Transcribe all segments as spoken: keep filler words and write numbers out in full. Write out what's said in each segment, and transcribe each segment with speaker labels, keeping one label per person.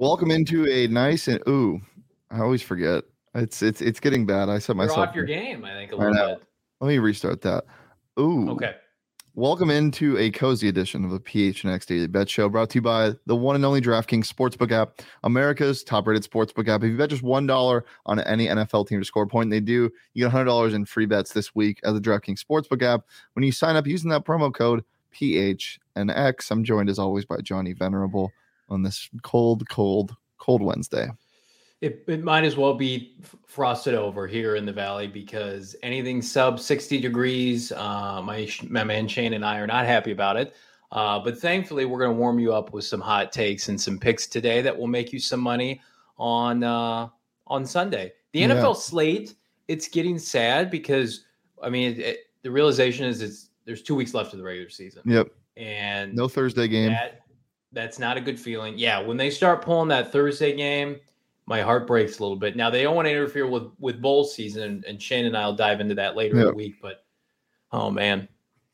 Speaker 1: Welcome into a nice and ooh, I always forget. It's it's it's getting bad. I set
Speaker 2: You're
Speaker 1: myself
Speaker 2: off your game, I think, a
Speaker 1: I
Speaker 2: little
Speaker 1: know.
Speaker 2: bit.
Speaker 1: Let me restart that. Ooh.
Speaker 2: Okay.
Speaker 1: Welcome into a cozy edition of the P H N X Daily Bet Show, brought to you by the one and only DraftKings Sportsbook app, America's top-rated sportsbook app. If you bet just one dollar on any N F L team to score a point, and they do, you get one hundred dollars in free bets this week at the DraftKings Sportsbook app when you sign up using that promo code P H N X. I'm joined, as always, by Johnny Venerable on this cold, cold, cold Wednesday.
Speaker 2: It, it might as well be frosted over here in the valley because anything sub sixty degrees, uh, my, my man Shane and I are not happy about it. Uh, but thankfully, we're going to warm you up with some hot takes and some picks today that will make you some money on uh, on Sunday. The N F L
Speaker 1: Yeah.
Speaker 2: slate, it's getting sad because, I mean, it, it, the realization is it's there's two weeks left of the regular season.
Speaker 1: Yep.
Speaker 2: And
Speaker 1: no Thursday game.
Speaker 2: That, that's not a good feeling. Yeah, when they start pulling that Thursday game, my heart breaks a little bit. Now, they don't want to interfere with, with bowl season, and Shane and I will dive into that later
Speaker 1: Yep.
Speaker 2: in the week. But, oh, man,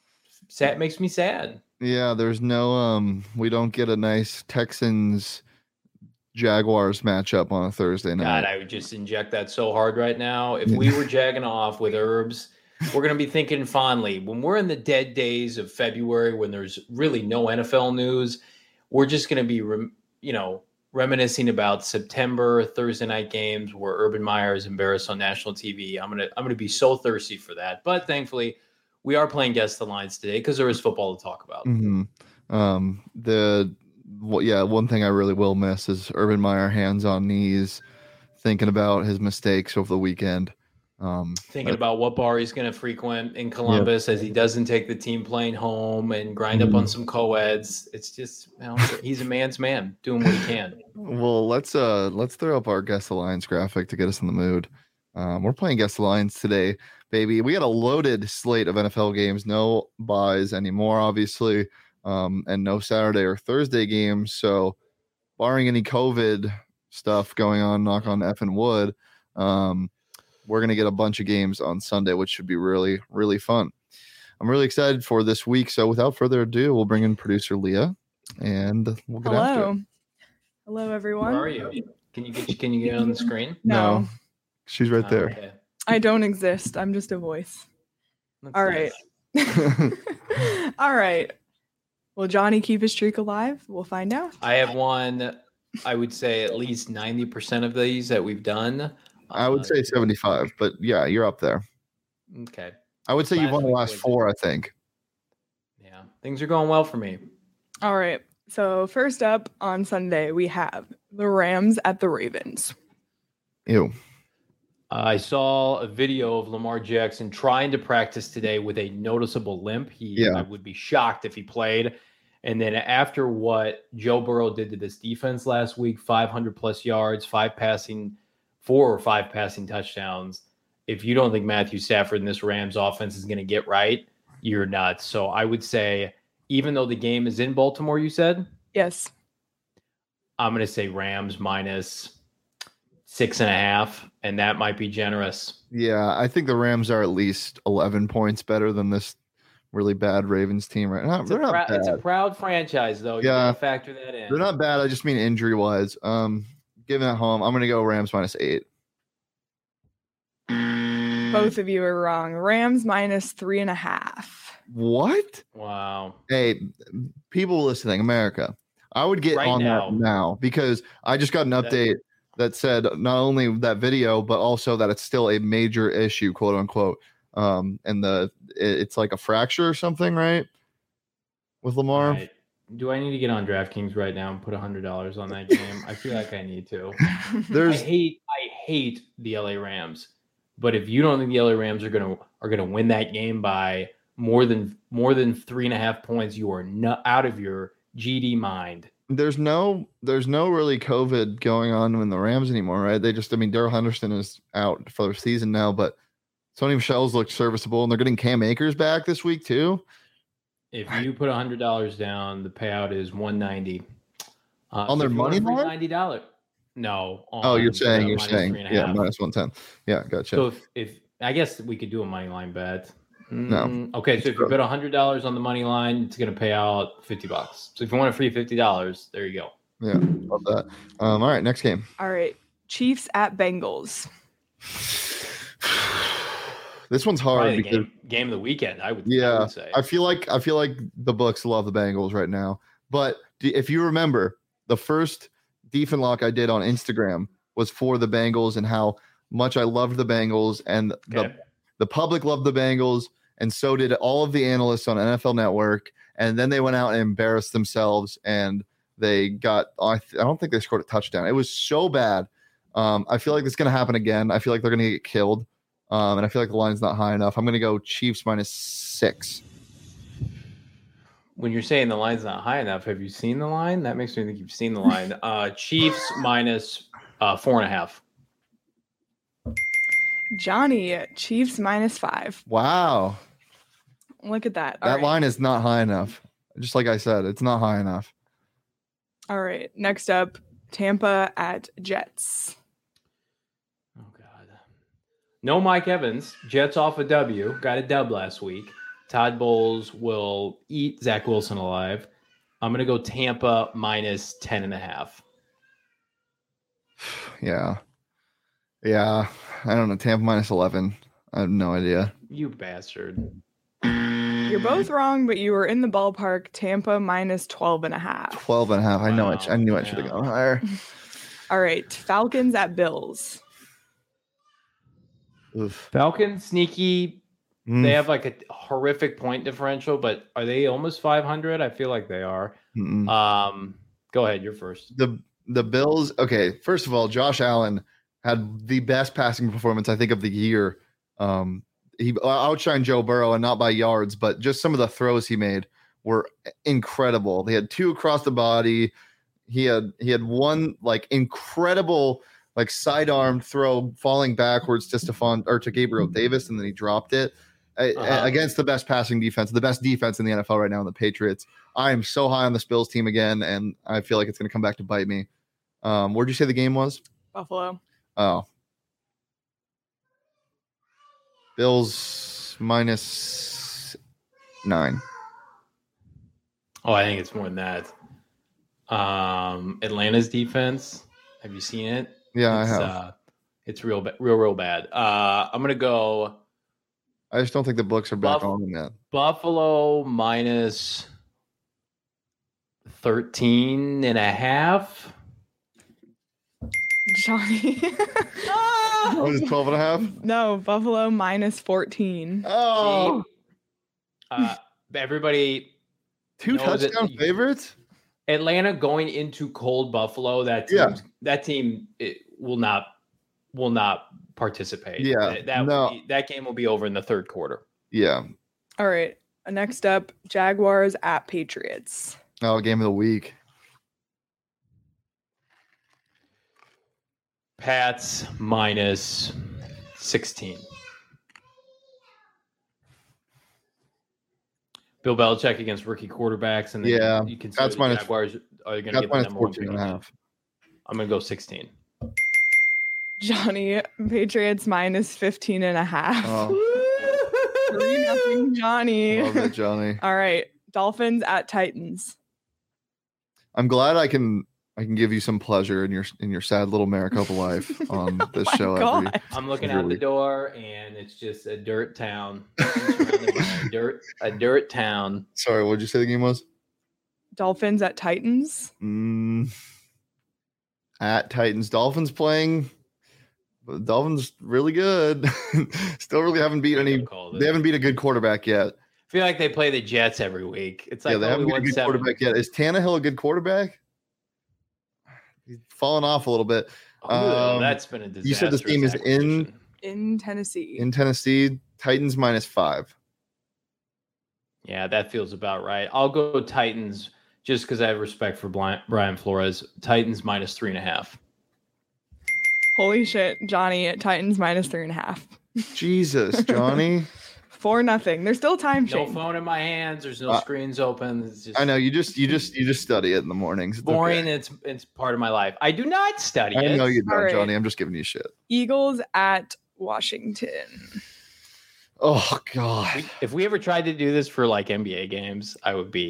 Speaker 2: sad makes me sad.
Speaker 1: Yeah, there's no, um, we don't get a nice Texans Jaguars matchup on a Thursday night.
Speaker 2: God, I would just inject that so hard right now. If we were jagging off with herbs, we're going to be thinking fondly. When we're in the dead days of February, when there's really no N F L news, we're just going to be, rem- you know, reminiscing about September Thursday night games where Urban Meyer is embarrassed on national T V. I'm gonna I'm gonna be so thirsty for that. But thankfully, we are playing Guess the Lines today because there is football to talk about.
Speaker 1: Mm-hmm. Um, the well, yeah, one thing I really will miss is Urban Meyer hands on knees, thinking about his mistakes over the weekend. Um,
Speaker 2: Thinking
Speaker 1: but,
Speaker 2: about what bar he's going to frequent in Columbus, yeah, as he doesn't take the team plane home and grind mm-hmm. up on some co-eds. It's just, you know, he's a man's man doing what he can.
Speaker 1: Well, let's uh let's throw up our Guess the Lines graphic to get us in the mood. Um, we're playing Guess the Lines today, baby. We got a loaded slate of N F L games, no buys anymore, obviously, um, and no Saturday or Thursday games. So, barring any COVID stuff going on, knock on effing wood, um, we're going to get a bunch of games on Sunday, which should be really, really fun. I'm really excited for this week. So without further ado, we'll bring in producer Leah and we'll get
Speaker 3: Hello.
Speaker 1: after it.
Speaker 3: Hello, everyone.
Speaker 2: Where are you? Can you get can you get on the screen?
Speaker 3: No.
Speaker 1: no she's right
Speaker 2: oh,
Speaker 1: there.
Speaker 2: Okay.
Speaker 3: I don't exist. I'm just a voice.
Speaker 2: That's
Speaker 3: All
Speaker 2: nice.
Speaker 3: right. All right. Will Johnny keep his streak alive? We'll find out.
Speaker 2: I have won, I would say, at least ninety percent of these that we've done.
Speaker 1: I would say seventy-five, but yeah, you're up there.
Speaker 2: Okay.
Speaker 1: I would say
Speaker 2: Last
Speaker 1: you've won the
Speaker 2: week
Speaker 1: last
Speaker 2: was-
Speaker 1: four, I think.
Speaker 2: Yeah, things are going well for me.
Speaker 3: All right. So first up on Sunday, we have the Rams at the Ravens.
Speaker 1: Ew.
Speaker 2: I saw a video of Lamar Jackson trying to practice today with a noticeable limp. He,
Speaker 1: Yeah.
Speaker 2: I would be shocked if he played. And then after what Joe Burrow did to this defense last week, five hundred plus yards, five passing, four or five passing touchdowns. If you don't think Matthew Stafford and this Rams offense is going to get right, you're nuts. So I would say, even though the game is in Baltimore, you said,
Speaker 3: Yes.
Speaker 2: I'm going to say Rams minus six and a half, and that might be generous.
Speaker 1: Yeah, I think the Rams are at least eleven points better than this really bad Ravens team right now.
Speaker 2: It's,
Speaker 1: They're
Speaker 2: a,
Speaker 1: not
Speaker 2: prou-
Speaker 1: bad.
Speaker 2: it's a proud franchise, though. You
Speaker 1: Yeah.
Speaker 2: got to factor that in.
Speaker 1: They're not bad. I just mean injury-wise. Um, given at home, I'm going to go Rams minus eight.
Speaker 3: Both of you are wrong. Rams minus three and a half.
Speaker 1: What?
Speaker 2: Wow.
Speaker 1: Hey, people listening, America, I would get
Speaker 2: Right
Speaker 1: on
Speaker 2: now.
Speaker 1: that now because I just got an update that said not only that video, but also that it's still a major issue, quote unquote. Um, and the it, it's like a fracture or something, right? With Lamar.
Speaker 2: All right. Do I need to get on DraftKings right now and put one hundred dollars on that game? I feel like I need to. I
Speaker 1: There's
Speaker 2: hate I hate the L A Rams. But if you don't think the L A Rams are gonna are gonna win that game by more than more than three and a half points, you are not out of your G D mind.
Speaker 1: there's no there's no really COVID going on in the Rams anymore, right? They just I mean Daryl Henderson is out for the season now, but Sony Michel's looked serviceable, and they're getting Cam Akers back this week too.
Speaker 2: If you put one hundred dollars down, the payout is one ninety. Uh,
Speaker 1: On their
Speaker 2: if you want
Speaker 1: money
Speaker 2: a free
Speaker 1: line?
Speaker 2: ninety dollars. No.
Speaker 1: Oh, you're
Speaker 2: on
Speaker 1: saying
Speaker 2: the
Speaker 1: you're
Speaker 2: minus
Speaker 1: saying
Speaker 2: three and a
Speaker 1: yeah,
Speaker 2: half.
Speaker 1: minus one ten. Yeah, gotcha.
Speaker 2: So if, if I guess we could do a money line bet.
Speaker 1: No.
Speaker 2: Mm, Okay, so if you bet one hundred dollars on the money line, it's going to pay out fifty bucks. So if you want a free fifty dollars, there you go.
Speaker 1: Yeah, love that. Um, all right, next game.
Speaker 3: All right. Chiefs at Bengals.
Speaker 1: This one's
Speaker 2: Probably
Speaker 1: hard
Speaker 2: the
Speaker 1: because
Speaker 2: game game of the weekend. I would. I
Speaker 1: yeah,
Speaker 2: would say.
Speaker 1: I feel like I feel like the books love the Bengals right now. But d- if you remember, the first Deef and Lock I did on Instagram was for the Bengals and how much I loved the Bengals, and the
Speaker 2: Okay.
Speaker 1: the public loved the Bengals, and so did all of the analysts on N F L Network. And then they went out and embarrassed themselves, and they got. I, th- I don't think they scored a touchdown. It was so bad. Um, I feel like it's going to happen again. I feel like they're going to get killed. Um, and I feel like the line's not high enough. I'm going to go Chiefs minus six.
Speaker 2: When you're saying the line's not high enough, have you seen the line? That makes me think you've seen the line. Uh, Chiefs minus uh, four and a half.
Speaker 3: Johnny, Chiefs minus five.
Speaker 1: Wow.
Speaker 3: Look at that. All
Speaker 1: That
Speaker 3: right.
Speaker 1: line is not high enough. Just like I said, it's not high enough.
Speaker 3: All right. Next up, Tampa at Jets.
Speaker 2: Oh God. No Mike Evans. Jets off a W. Got a dub last week. Todd Bowles will eat Zach Wilson alive. I'm gonna go Tampa minus ten and a half.
Speaker 1: Yeah. Yeah. I don't know. Tampa minus eleven. I have no idea.
Speaker 2: You bastard.
Speaker 3: You're both wrong, but you were in the ballpark. Tampa minus twelve and a half.
Speaker 1: twelve and a half. I know it.
Speaker 2: Wow.
Speaker 1: I knew I should have
Speaker 2: Yeah.
Speaker 1: gone higher.
Speaker 3: All right. Falcons at Bills.
Speaker 1: Oof.
Speaker 2: Falcons sneaky.
Speaker 1: Mm,
Speaker 2: They have like a horrific point differential, but are they almost five hundred? I feel like they are.
Speaker 1: mm-mm.
Speaker 2: Um, go ahead. You're first.
Speaker 1: the the Bills. Okay, first of all, Josh Allen had the best passing performance I think of the year. Um, he outshined Joe Burrow, and not by yards, but just some of the throws he made were incredible. They had two across the body. He had he had one like incredible like sidearm throw falling backwards to Stephon or to Gabriel Davis, and then he dropped it. Uh,
Speaker 2: Uh-huh.
Speaker 1: Against the best passing defense, the best defense in the N F L right now in the Patriots. I am so high on this Bills team again, and I feel like it's going to come back to bite me. Um, where'd you say the game was?
Speaker 3: Buffalo.
Speaker 1: Oh. Bills minus nine.
Speaker 2: Oh, I think it's more than that. Um, Atlanta's defense. Have you seen it?
Speaker 1: Yeah,
Speaker 2: it's,
Speaker 1: I have.
Speaker 2: Uh, it's real, ba- real, real bad. Uh, I'm gonna go
Speaker 1: I just don't think the books are back
Speaker 2: Buff-
Speaker 1: on them yet.
Speaker 2: Buffalo minus thirteen and a half.
Speaker 3: Johnny.
Speaker 1: Oh, is it twelve and a half?
Speaker 3: No, Buffalo minus fourteen.
Speaker 1: Oh,
Speaker 2: Uh, everybody,
Speaker 1: two
Speaker 2: knows it-
Speaker 1: touchdown favorites?
Speaker 2: Atlanta going into cold Buffalo. That team,
Speaker 1: Yeah.
Speaker 2: that team it will not will not participate.
Speaker 1: Yeah,
Speaker 2: that that,
Speaker 1: no.
Speaker 2: will be- that game will be over in the third quarter.
Speaker 1: Yeah.
Speaker 3: All right. Next up, Jaguars at Patriots.
Speaker 1: Oh, game of the week.
Speaker 2: Pats minus sixteen. Bill Belichick against rookie quarterbacks, and then
Speaker 1: Yeah,
Speaker 2: you consider
Speaker 1: Pats
Speaker 2: the
Speaker 1: minus-
Speaker 2: Jaguars are going to
Speaker 1: Got
Speaker 2: get the
Speaker 1: minus
Speaker 2: number one
Speaker 1: fourteen
Speaker 2: pick.
Speaker 1: and a half.
Speaker 2: I'm going to go sixteen.
Speaker 3: Johnny, Patriots minus fifteen and a half.
Speaker 1: Oh,
Speaker 3: Three nothing, Johnny.
Speaker 1: love it, Johnny.
Speaker 3: All right. Dolphins at Titans.
Speaker 1: I'm glad I can I can give you some pleasure in your in your sad little Maricopa life on
Speaker 3: Oh
Speaker 1: this
Speaker 3: my
Speaker 1: show.
Speaker 3: God.
Speaker 1: Every,
Speaker 2: I'm looking
Speaker 1: Every
Speaker 2: out the
Speaker 1: week.
Speaker 2: door, and it's just a dirt town. Surrounded by a dirt, a dirt town.
Speaker 1: sorry, what did you say the game was?
Speaker 3: Dolphins at Titans.
Speaker 1: Mm, at Titans, Dolphins playing. The Dolphins really good. Still really haven't beat any.
Speaker 2: Called it.
Speaker 1: They haven't beat a good quarterback yet.
Speaker 2: I feel like they play the Jets every week. It's like
Speaker 1: yeah, they
Speaker 2: oh,
Speaker 1: haven't
Speaker 2: we
Speaker 1: beat a
Speaker 2: won
Speaker 1: good
Speaker 2: seven.
Speaker 1: quarterback yet. Is Tannehill a good quarterback? He's fallen off a little bit.
Speaker 2: Oh,
Speaker 1: Um,
Speaker 2: that's been a disaster.
Speaker 1: you said this game is in-
Speaker 3: In Tennessee.
Speaker 1: In Tennessee, Titans minus five.
Speaker 2: Yeah, that feels about right. I'll go Titans just because I have respect for Bli- Brian Flores. Titans minus three and a half.
Speaker 3: Holy shit, Johnny at Titans minus three and a half.
Speaker 1: Jesus, Johnny.
Speaker 3: Four nothing. There's still time,
Speaker 2: No
Speaker 3: Shane.
Speaker 2: phone in my hands. There's no
Speaker 1: Uh,
Speaker 2: screens open. It's just
Speaker 1: I know you just you just you just study it in the mornings. It's
Speaker 2: boring.
Speaker 1: okay.
Speaker 2: It's it's part of my life. I do not study
Speaker 1: I
Speaker 2: it.
Speaker 1: know you
Speaker 3: All
Speaker 1: don't,
Speaker 3: right.
Speaker 1: Johnny. I'm just giving you shit.
Speaker 3: Eagles at Washington.
Speaker 1: Oh God.
Speaker 2: We- if we ever tried to do this for like N B A games, I would be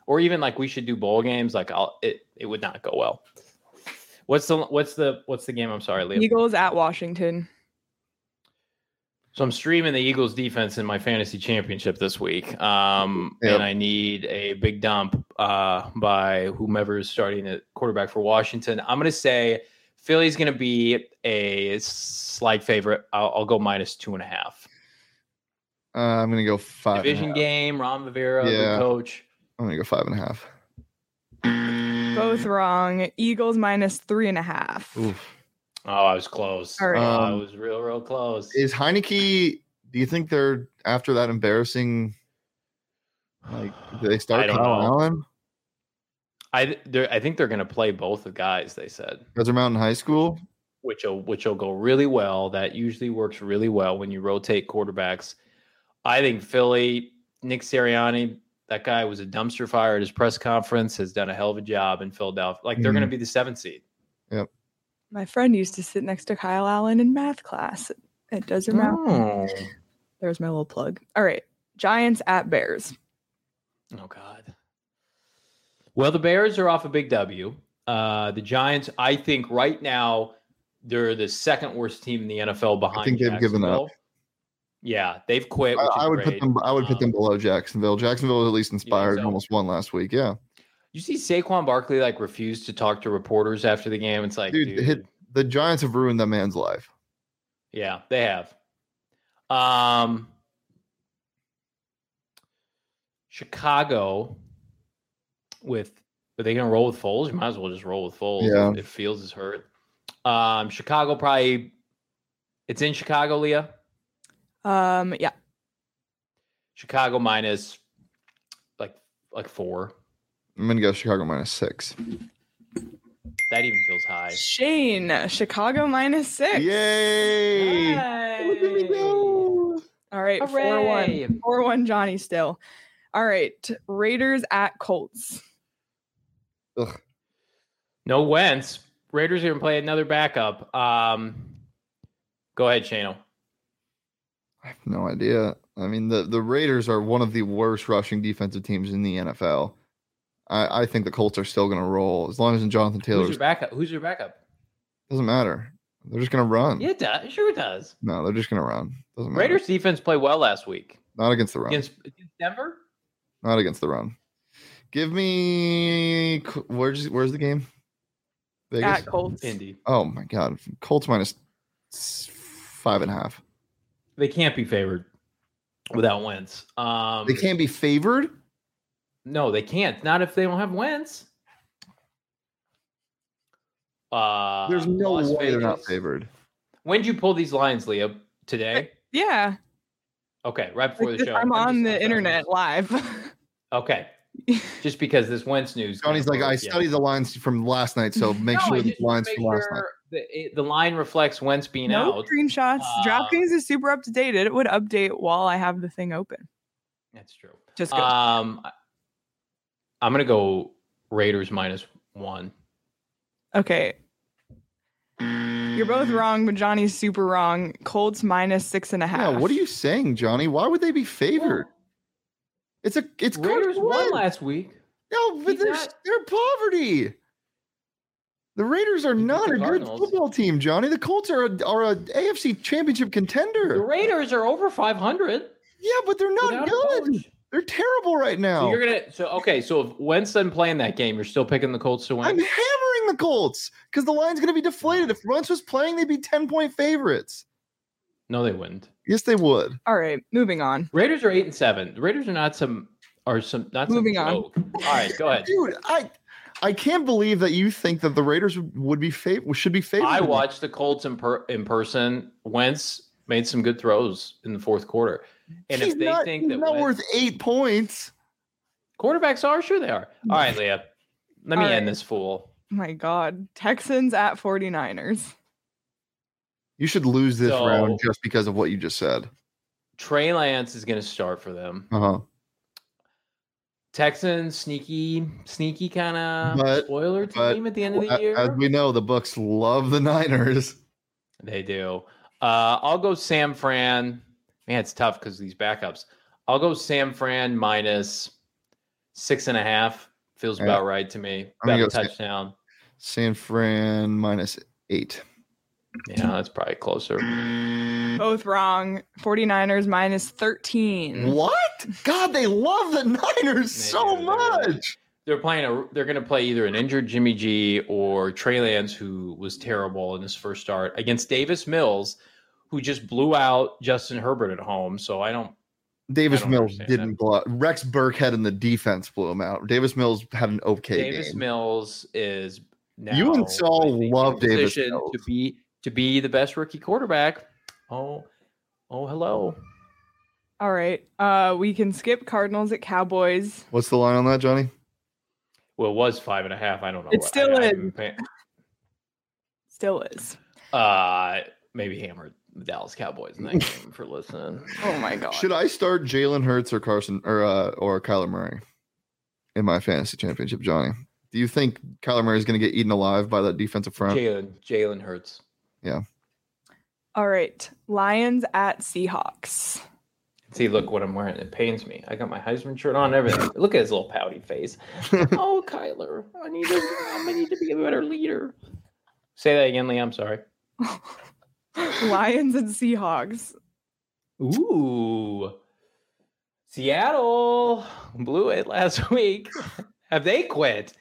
Speaker 2: or even like we should do bowl games, like I'll it it would not go well. What's the what's the what's the game? I'm sorry, Liam.
Speaker 3: Eagles at Washington.
Speaker 2: So I'm streaming the Eagles defense in my fantasy championship this week. Um,
Speaker 1: Yep.
Speaker 2: and I need a big dump uh, by whomever is starting at quarterback for Washington. I'm going to say Philly's going to be a slight favorite. I'll, I'll go minus two and a half.
Speaker 1: Uh, I'm gonna go five. and a
Speaker 2: Division
Speaker 1: half.
Speaker 2: game, Ron Rivera,
Speaker 1: Yeah.
Speaker 2: the coach.
Speaker 1: I'm gonna go five and a half.
Speaker 3: Both wrong. Eagles minus three and a half.
Speaker 1: Oof.
Speaker 2: Oh, I was close.
Speaker 3: All right.
Speaker 2: Oh, I
Speaker 1: Um,
Speaker 2: was real, real close.
Speaker 1: Is Heineke? Do you think they're after that embarrassing? Like, do they
Speaker 2: I
Speaker 1: start
Speaker 2: don't
Speaker 1: Kyle
Speaker 2: know.
Speaker 1: Allen?
Speaker 2: I they're- I think they're going to play both the guys. They said,
Speaker 1: Desert Mountain High School.
Speaker 2: which will which will go really well. That usually works really well when you rotate quarterbacks. I think Philly, Nick Sirianni, that guy was a dumpster fire at his press conference, has done a hell of a job in Philadelphia. Like they're
Speaker 1: Mhm.
Speaker 2: going to be the seventh seed.
Speaker 3: My friend used to sit next to Kyle Allen in math class at Desert Mountain.
Speaker 2: Oh.
Speaker 3: There's my little plug. All right. Giants at Bears.
Speaker 2: Oh God. Well, the Bears are off a big W. Uh, the Giants, I think, right now they're the second worst team in the N F L behind.
Speaker 1: think they've given up.
Speaker 2: Jacksonville. Yeah, they've quit. Which
Speaker 1: I,
Speaker 2: is
Speaker 1: I would
Speaker 2: great.
Speaker 1: put them. I would put
Speaker 2: Um,
Speaker 1: them below Jacksonville. Jacksonville was at least inspired.
Speaker 2: so?
Speaker 1: and Almost won last week. Yeah,
Speaker 2: You see, Saquon Barkley like refused to talk to reporters after the game. It's like,
Speaker 1: dude,
Speaker 2: dude,
Speaker 1: hit, the Giants have ruined that man's life.
Speaker 2: yeah, they have. Um, Chicago with, are they going to roll with Foles? You might as well just roll with Foles.
Speaker 1: Yeah.
Speaker 2: If, if Fields is hurt. Um, Chicago probably. It's in Chicago, Leah.
Speaker 3: Um, yeah.
Speaker 2: Chicago minus like like four.
Speaker 1: I'm gonna go Chicago minus six.
Speaker 2: That even feels high.
Speaker 3: Shane, Chicago minus six.
Speaker 1: Yay! Look at me
Speaker 2: Yay.
Speaker 1: go!
Speaker 3: All right. four
Speaker 2: Hooray.
Speaker 3: one. four one Johnny still. All right. Raiders at Colts.
Speaker 1: Ugh.
Speaker 2: No Wentz. Raiders are going to play another backup. Um, go ahead, Shano.
Speaker 1: I have no idea. I mean, the, the Raiders are one of the worst rushing defensive teams in the N F L. I, I think the Colts are still going to roll as long as Jonathan
Speaker 2: Who's
Speaker 1: Taylor
Speaker 2: your backup? Who's your backup?
Speaker 1: doesn't matter. They're just going to run.
Speaker 2: Yeah, it does. Sure it does.
Speaker 1: No, they're just going to run. Doesn't matter.
Speaker 2: Raiders defense played well last week
Speaker 1: Not against the run.
Speaker 2: against, against Denver.
Speaker 1: Not against the run. Give me where's where's the game? Vegas.
Speaker 3: At Colts.
Speaker 2: Indy.
Speaker 1: Oh my god, Colts minus s- five and a half.
Speaker 2: They can't be favored without Wentz. Um,
Speaker 1: They can't be favored.
Speaker 2: No, they can't. Not if they don't have Wentz. Uh,
Speaker 1: There's no
Speaker 2: Las
Speaker 1: way they're not
Speaker 2: Vegas.
Speaker 1: favored.
Speaker 2: When did you pull these lines, Leah? Today?
Speaker 3: Yeah.
Speaker 2: Okay, right before
Speaker 3: Like
Speaker 2: the
Speaker 3: this-
Speaker 2: show.
Speaker 3: I'm on
Speaker 2: just-
Speaker 3: the
Speaker 2: I'm
Speaker 3: internet
Speaker 2: sorry.
Speaker 3: live.
Speaker 2: Okay, just because this Wentz news.
Speaker 1: Johnny's like,
Speaker 2: kinda
Speaker 1: I
Speaker 2: broke, yeah.
Speaker 1: studied the lines from last night, so make
Speaker 2: No, I
Speaker 1: sure the
Speaker 2: just wanna
Speaker 1: lines
Speaker 2: make
Speaker 1: from last night.
Speaker 2: sure The, it- the line reflects Wentz being
Speaker 3: no
Speaker 2: out.
Speaker 3: screenshots.
Speaker 2: Um,
Speaker 3: DraftKings is super up to date. It would update while I have the thing open.
Speaker 2: That's true.
Speaker 3: Just go.
Speaker 2: Um, I- I'm gonna go Raiders minus one.
Speaker 3: Okay. You're both wrong, but Johnny's super wrong. Colts minus six and a half.
Speaker 1: Yeah, what are you saying, Johnny? Why would they be favored? It's a it's
Speaker 2: Raiders
Speaker 1: Carson
Speaker 2: won
Speaker 1: Wentz.
Speaker 2: last week.
Speaker 1: No, but
Speaker 2: He's
Speaker 1: they're
Speaker 2: not-
Speaker 1: they're poverty. The Raiders are
Speaker 2: Beat
Speaker 1: not
Speaker 2: the
Speaker 1: a good
Speaker 2: Cardinals.
Speaker 1: football team, Johnny. The Colts are a, are a A F C Championship
Speaker 2: The
Speaker 1: contender.
Speaker 2: Raiders are over five hundred.
Speaker 1: Yeah, but they're not
Speaker 2: without a
Speaker 1: good.
Speaker 2: coach.
Speaker 1: They're terrible right
Speaker 2: So
Speaker 1: now.
Speaker 2: you're gonna so okay. So if Wentz doesn't play in that game, you're still picking the Colts to win.
Speaker 1: I'm hammering the Colts because the line's going to be deflated. If Wentz was playing, they'd be ten point favorites.
Speaker 2: No, they wouldn't.
Speaker 1: Yes, they would.
Speaker 3: All right, moving on.
Speaker 2: Raiders are eight and seven. The Raiders are not some are some not some
Speaker 3: Moving on.
Speaker 2: joke. All right, go ahead.
Speaker 1: Dude, I I can't believe that you think that the Raiders would, would be fav- should be favored.
Speaker 2: I watched the Colts in per, in person. Wentz made some good throws in the fourth quarter, and
Speaker 1: he's
Speaker 2: if they
Speaker 1: not,
Speaker 2: think
Speaker 1: he's
Speaker 2: that
Speaker 1: not
Speaker 2: Wentz,
Speaker 1: worth eight points.
Speaker 2: quarterbacks are, sure they are. All right, Leah, let me
Speaker 3: All
Speaker 2: end
Speaker 3: right.
Speaker 2: this fool.
Speaker 3: Oh my God. Texans at 49ers.
Speaker 1: You should lose this
Speaker 2: So-
Speaker 1: round just because of what you just said.
Speaker 2: Trey Lance is going to start for them.
Speaker 1: Uh huh.
Speaker 2: Texans sneaky, sneaky kind of
Speaker 1: But-
Speaker 2: spoiler
Speaker 1: but
Speaker 2: team at the end of the year.
Speaker 1: As we know, the books love the Niners.
Speaker 2: They do. Uh, I'll go Sam Fran. Man, it's tough because these backups. I'll go Sam Fran minus Six and a half feels
Speaker 1: Yeah.
Speaker 2: about right to me.
Speaker 1: I'm gonna
Speaker 2: About a
Speaker 1: go San-
Speaker 2: touchdown.
Speaker 1: San Fran minus eight.
Speaker 2: Yeah, that's probably closer.
Speaker 3: Both wrong. 49ers minus thirteen.
Speaker 1: What? God, they love the Niners
Speaker 2: They
Speaker 1: so
Speaker 2: do, they really
Speaker 1: much.
Speaker 2: They're playing a. They're going to play either an injured Jimmy G or Trey Lance, who was terrible in his first start, against Davis Mills, who just blew out Justin Herbert at home. So I don't.
Speaker 1: Davis
Speaker 2: I don't
Speaker 1: Mills
Speaker 2: understand
Speaker 1: didn't
Speaker 2: that.
Speaker 1: blow out. Rex Burkhead in the defense blew him out. Davis Mills had an okay
Speaker 2: Davis
Speaker 1: game.
Speaker 2: Mills is now.
Speaker 1: You and Saul
Speaker 2: I think, in
Speaker 1: love Davis
Speaker 2: position
Speaker 1: Mills.
Speaker 2: to be to be the best rookie quarterback. Oh, oh, hello.
Speaker 3: All right. Uh, we can skip Cardinals at Cowboys.
Speaker 1: What's the line on that, Johnny?
Speaker 2: Well, it was five and a half. I don't know.
Speaker 3: It
Speaker 2: what-
Speaker 3: still
Speaker 2: I, I
Speaker 3: is.
Speaker 2: haven't pay-
Speaker 3: Still is.
Speaker 2: Uh, maybe hammered the Dallas Cowboys in that game for listening.
Speaker 3: Oh my god.
Speaker 1: Should I start Jalen Hurts or Carson or uh, or Kyler Murray in my fantasy championship, Johnny? Do you think Kyler Murray is going to get eaten alive by that defensive front?
Speaker 2: Jalen Jalen Hurts.
Speaker 3: All right. Lions at Seahawks.
Speaker 2: See, look what I'm wearing. It pains me. I got my Heisman shirt on. Everything. Look at his little pouty face. Oh, Kyler, I need to. I need to be a better leader. Say that again, Liam. Sorry.
Speaker 3: Lions and Seahawks.
Speaker 2: Ooh, Seattle blew it last week. Have they quit?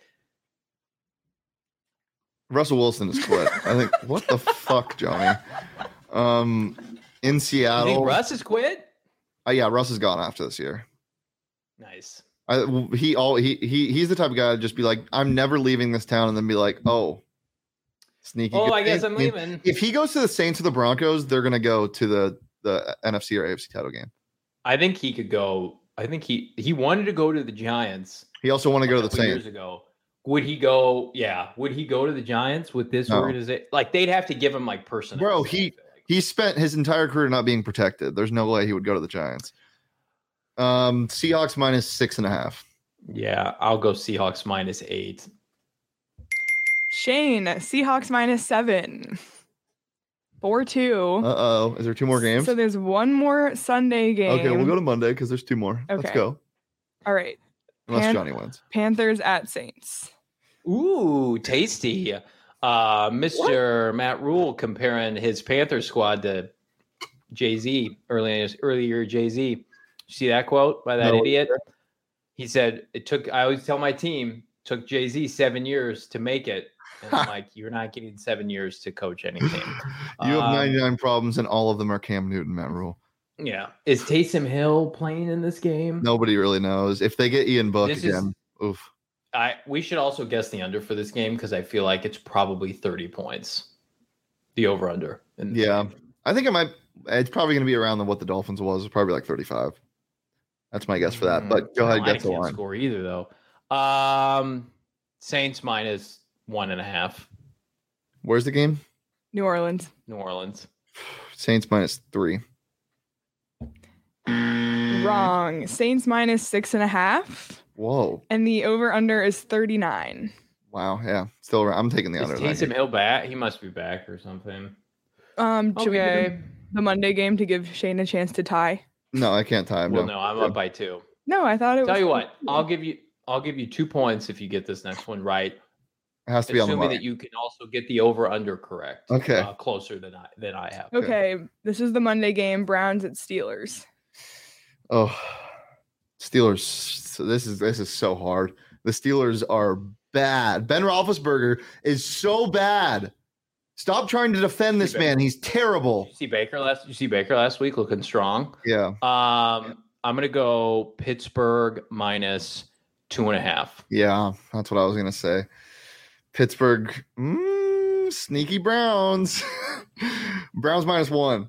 Speaker 1: Russell Wilson is quit. I think. What the fuck, Johnny? Um, in
Speaker 2: You
Speaker 1: Seattle,
Speaker 2: think Russ has quit?
Speaker 1: uh, yeah, Russ is gone after this year.
Speaker 2: Nice.
Speaker 1: I, he all he he he's the type of guy to just be like, I'm never leaving this town, and then be like, oh, sneaky.
Speaker 2: Oh,
Speaker 1: good
Speaker 2: I guess
Speaker 1: thing.
Speaker 2: I'm leaving.
Speaker 1: If he goes to the Saints or the Broncos, they're gonna go to the the N F C or A F C title game.
Speaker 2: I think he could go. I think he he wanted to go to the Giants.
Speaker 1: He also want to go to
Speaker 2: a
Speaker 1: the
Speaker 2: couple years
Speaker 1: Saints.
Speaker 2: ago. Would he go? Yeah. Would he go to the Giants with this
Speaker 1: No.
Speaker 2: organization? Like they'd have to give him like personnel.
Speaker 1: Bro,
Speaker 2: I
Speaker 1: he-
Speaker 2: feel like.
Speaker 1: He spent his entire career not being protected. There's no way he would go to the Giants. Um, Seahawks minus six and a half.
Speaker 2: Yeah, I'll go Seahawks minus eight.
Speaker 3: Shane, Seahawks minus seven. four two.
Speaker 1: Uh oh, is there two more games?
Speaker 3: So there's one more Sunday game.
Speaker 1: Okay, we'll go to Monday because there's two more. Let's
Speaker 3: Okay.
Speaker 1: go.
Speaker 3: All right.
Speaker 1: Unless
Speaker 3: Pan-
Speaker 1: Johnny wins.
Speaker 3: Panthers at Saints.
Speaker 2: Ooh, tasty. Uh, Mister Matt Rule comparing his Panther squad to Jay Z earlier earlier. Jay Z, see that quote by that
Speaker 1: No.
Speaker 2: idiot? He said it took. I always tell my team took Jay Z seven years to make it. And I'm like, you're not getting seven years to coach anything.
Speaker 1: You have
Speaker 2: Um,
Speaker 1: ninety-nine problems, and all of them are Cam Newton, Matt Rule.
Speaker 2: Yeah. Is Taysom Hill playing in this game?
Speaker 1: Nobody really knows. If they get Ian Book
Speaker 2: This is-
Speaker 1: again, oof.
Speaker 2: I we should also guess the under for this game because I feel like it's probably thirty points. The over under.
Speaker 1: Yeah. I think it might. It's probably going to be around the, what the Dolphins was. It's probably like thirty-five. That's my guess for that. But go ahead,
Speaker 2: Mm, I
Speaker 1: get the
Speaker 2: can't
Speaker 1: line.
Speaker 2: score either though. Um, Saints minus one and a half.
Speaker 1: Where's the game?
Speaker 3: New Orleans.
Speaker 2: New Orleans.
Speaker 1: Saints minus three.
Speaker 3: Wrong. Saints minus six and a half.
Speaker 1: Whoa.
Speaker 3: And the over under is thirty-nine.
Speaker 1: Wow. Yeah. Still around. I'm taking the
Speaker 2: Is
Speaker 1: under. in that
Speaker 2: Taysom
Speaker 1: game.
Speaker 2: Hill back? He must be back or something.
Speaker 3: Um, should we do
Speaker 2: Okay.
Speaker 3: the Monday game to give Shane a chance to tie?
Speaker 1: No, I can't time.
Speaker 2: Well,
Speaker 1: no.
Speaker 2: no, I'm up by two.
Speaker 3: No, I thought it was.
Speaker 2: Tell you what, I'll give you. I'll give you two points if you get this next one right.
Speaker 1: It has to be on the
Speaker 2: Assuming
Speaker 1: money.
Speaker 2: that you can also get the over under correct.
Speaker 1: Okay.
Speaker 2: Uh, closer than I than I have.
Speaker 3: Okay, this is the Monday game. Browns at Steelers.
Speaker 1: Oh, Steelers. So this is this is so hard. The Steelers are bad. Ben Roethlisberger is so bad. Stop trying to defend this man. He's terrible.
Speaker 2: Did you see Baker last? Did you see Baker last week looking strong?
Speaker 1: Yeah.
Speaker 2: Um, I'm gonna go Pittsburgh minus two and a half.
Speaker 1: Yeah. That's what I was gonna say. Pittsburgh. Mm, sneaky Browns. Browns minus one.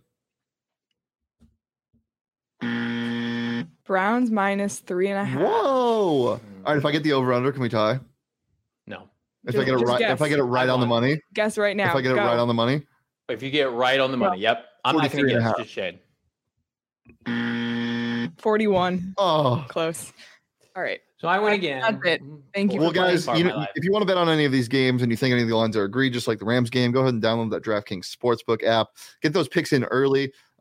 Speaker 3: Browns minus three and a half.
Speaker 1: Whoa. All right. If I get the over under, can we tie?
Speaker 2: No.
Speaker 1: If
Speaker 3: Just-
Speaker 1: I get it
Speaker 3: just
Speaker 1: right, if I
Speaker 3: guess.
Speaker 1: get it right
Speaker 2: I
Speaker 1: on the
Speaker 2: won.
Speaker 1: money,
Speaker 3: Guess right now.
Speaker 1: if I get it
Speaker 3: Go.
Speaker 1: right on the money,
Speaker 2: If you get it right on the money, yep. I'm not gonna
Speaker 1: forty-three and a
Speaker 2: guess.
Speaker 1: half.
Speaker 2: Just Shane.
Speaker 3: forty-one.
Speaker 1: oh.
Speaker 3: Close. All right.
Speaker 2: So I win again.
Speaker 3: That's it. Thank you
Speaker 1: Well,
Speaker 3: for playing.
Speaker 1: guys,
Speaker 2: Part
Speaker 1: you
Speaker 2: of my
Speaker 1: know,
Speaker 2: life.
Speaker 1: if you want to bet on any of these games and you think any of the lines are egregious, like the Rams game, go ahead and download that DraftKings Sportsbook app. Get those picks in early.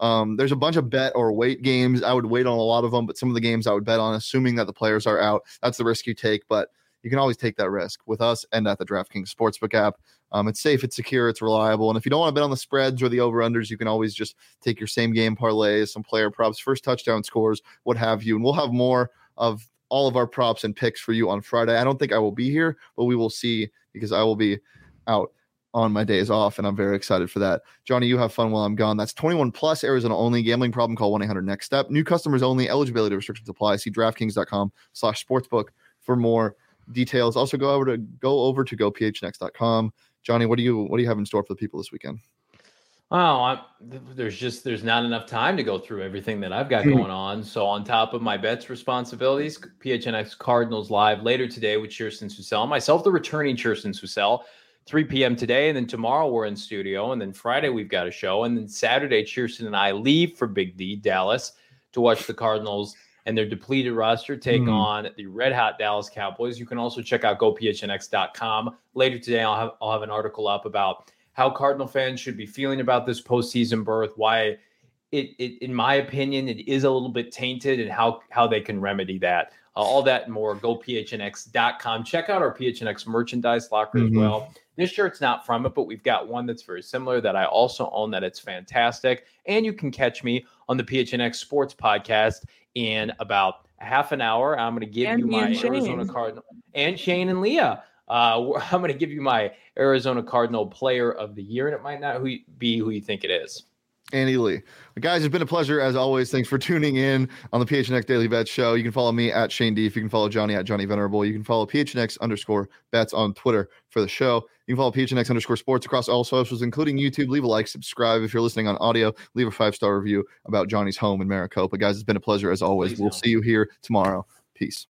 Speaker 1: Um, there's a bunch of bet or wait games. I would wait on a lot of them, but some of the games I would bet on, assuming that the players are out. That's the risk you take, but you can always take that risk with us and at the DraftKings Sportsbook app. Um, it's safe, it's secure, it's reliable. And if you don't want to bet on the spreads or the over-unders, you can always just take your same game parlays, some player props, first touchdown scores, what have you. And we'll have more of all of our props and picks for you on Friday. I don't think I will be here, but we will see because I will be out on my days off, and I'm very excited for that. Johnny, you have fun while I'm gone. That's twenty-one plus, Arizona only. Gambling problem, call one eight hundred next step. New customers only. Eligibility restrictions apply. See DraftKings.com slash sportsbook for more details. Also, go over to go over to go p h n x dot com. Johnny, what do you what do you have in store for the people this weekend?
Speaker 2: Oh, I'm, there's just there's not enough time to go through everything that I've got going on. So on top of my bets responsibilities, P H N X Cardinals live later today with Kirsten Susel, myself, the returning Kirsten Susel, three p.m. today, and then tomorrow we're in studio, and then Friday we've got a show, and then Saturday Kirsten and I leave for Big D, Dallas, to watch the Cardinals and their depleted roster take mm. on the red hot Dallas Cowboys. You can also check out go p h n x dot com. Later today, I'll have I'll have an article up about how Cardinal fans should be feeling about this postseason berth, why it, it in my opinion, it is a little bit tainted, and how how they can remedy that. Uh, all that and more, go p h n x dot com. Check out our P H N X merchandise locker mm-hmm. as well. This shirt's not from it, but we've got one that's very similar that I also own, that it's fantastic. And you can catch me on the P H N X Sports Podcast in about a half an hour. I'm going to give and you my Arizona Cardinal and Shane and Leah. Uh, I'm going to give you my Arizona Cardinal Player of the Year, and it might not who, be who you think it is.
Speaker 1: Andy Lee. Guys, it's been a pleasure as always. Thanks for tuning in on the P H N X Daily Bet Show. You can follow me at Shane D. If you can follow Johnny at Johnny Venerable. You can follow P H N X underscore bets on Twitter for the show. You can follow P H N X underscore sports across all socials, including YouTube. Leave a like, subscribe. If you're listening on audio, leave a five-star review about Johnny's home in Maricopa. Guys, it's been a pleasure as always. Please we'll know. see you here tomorrow. Peace.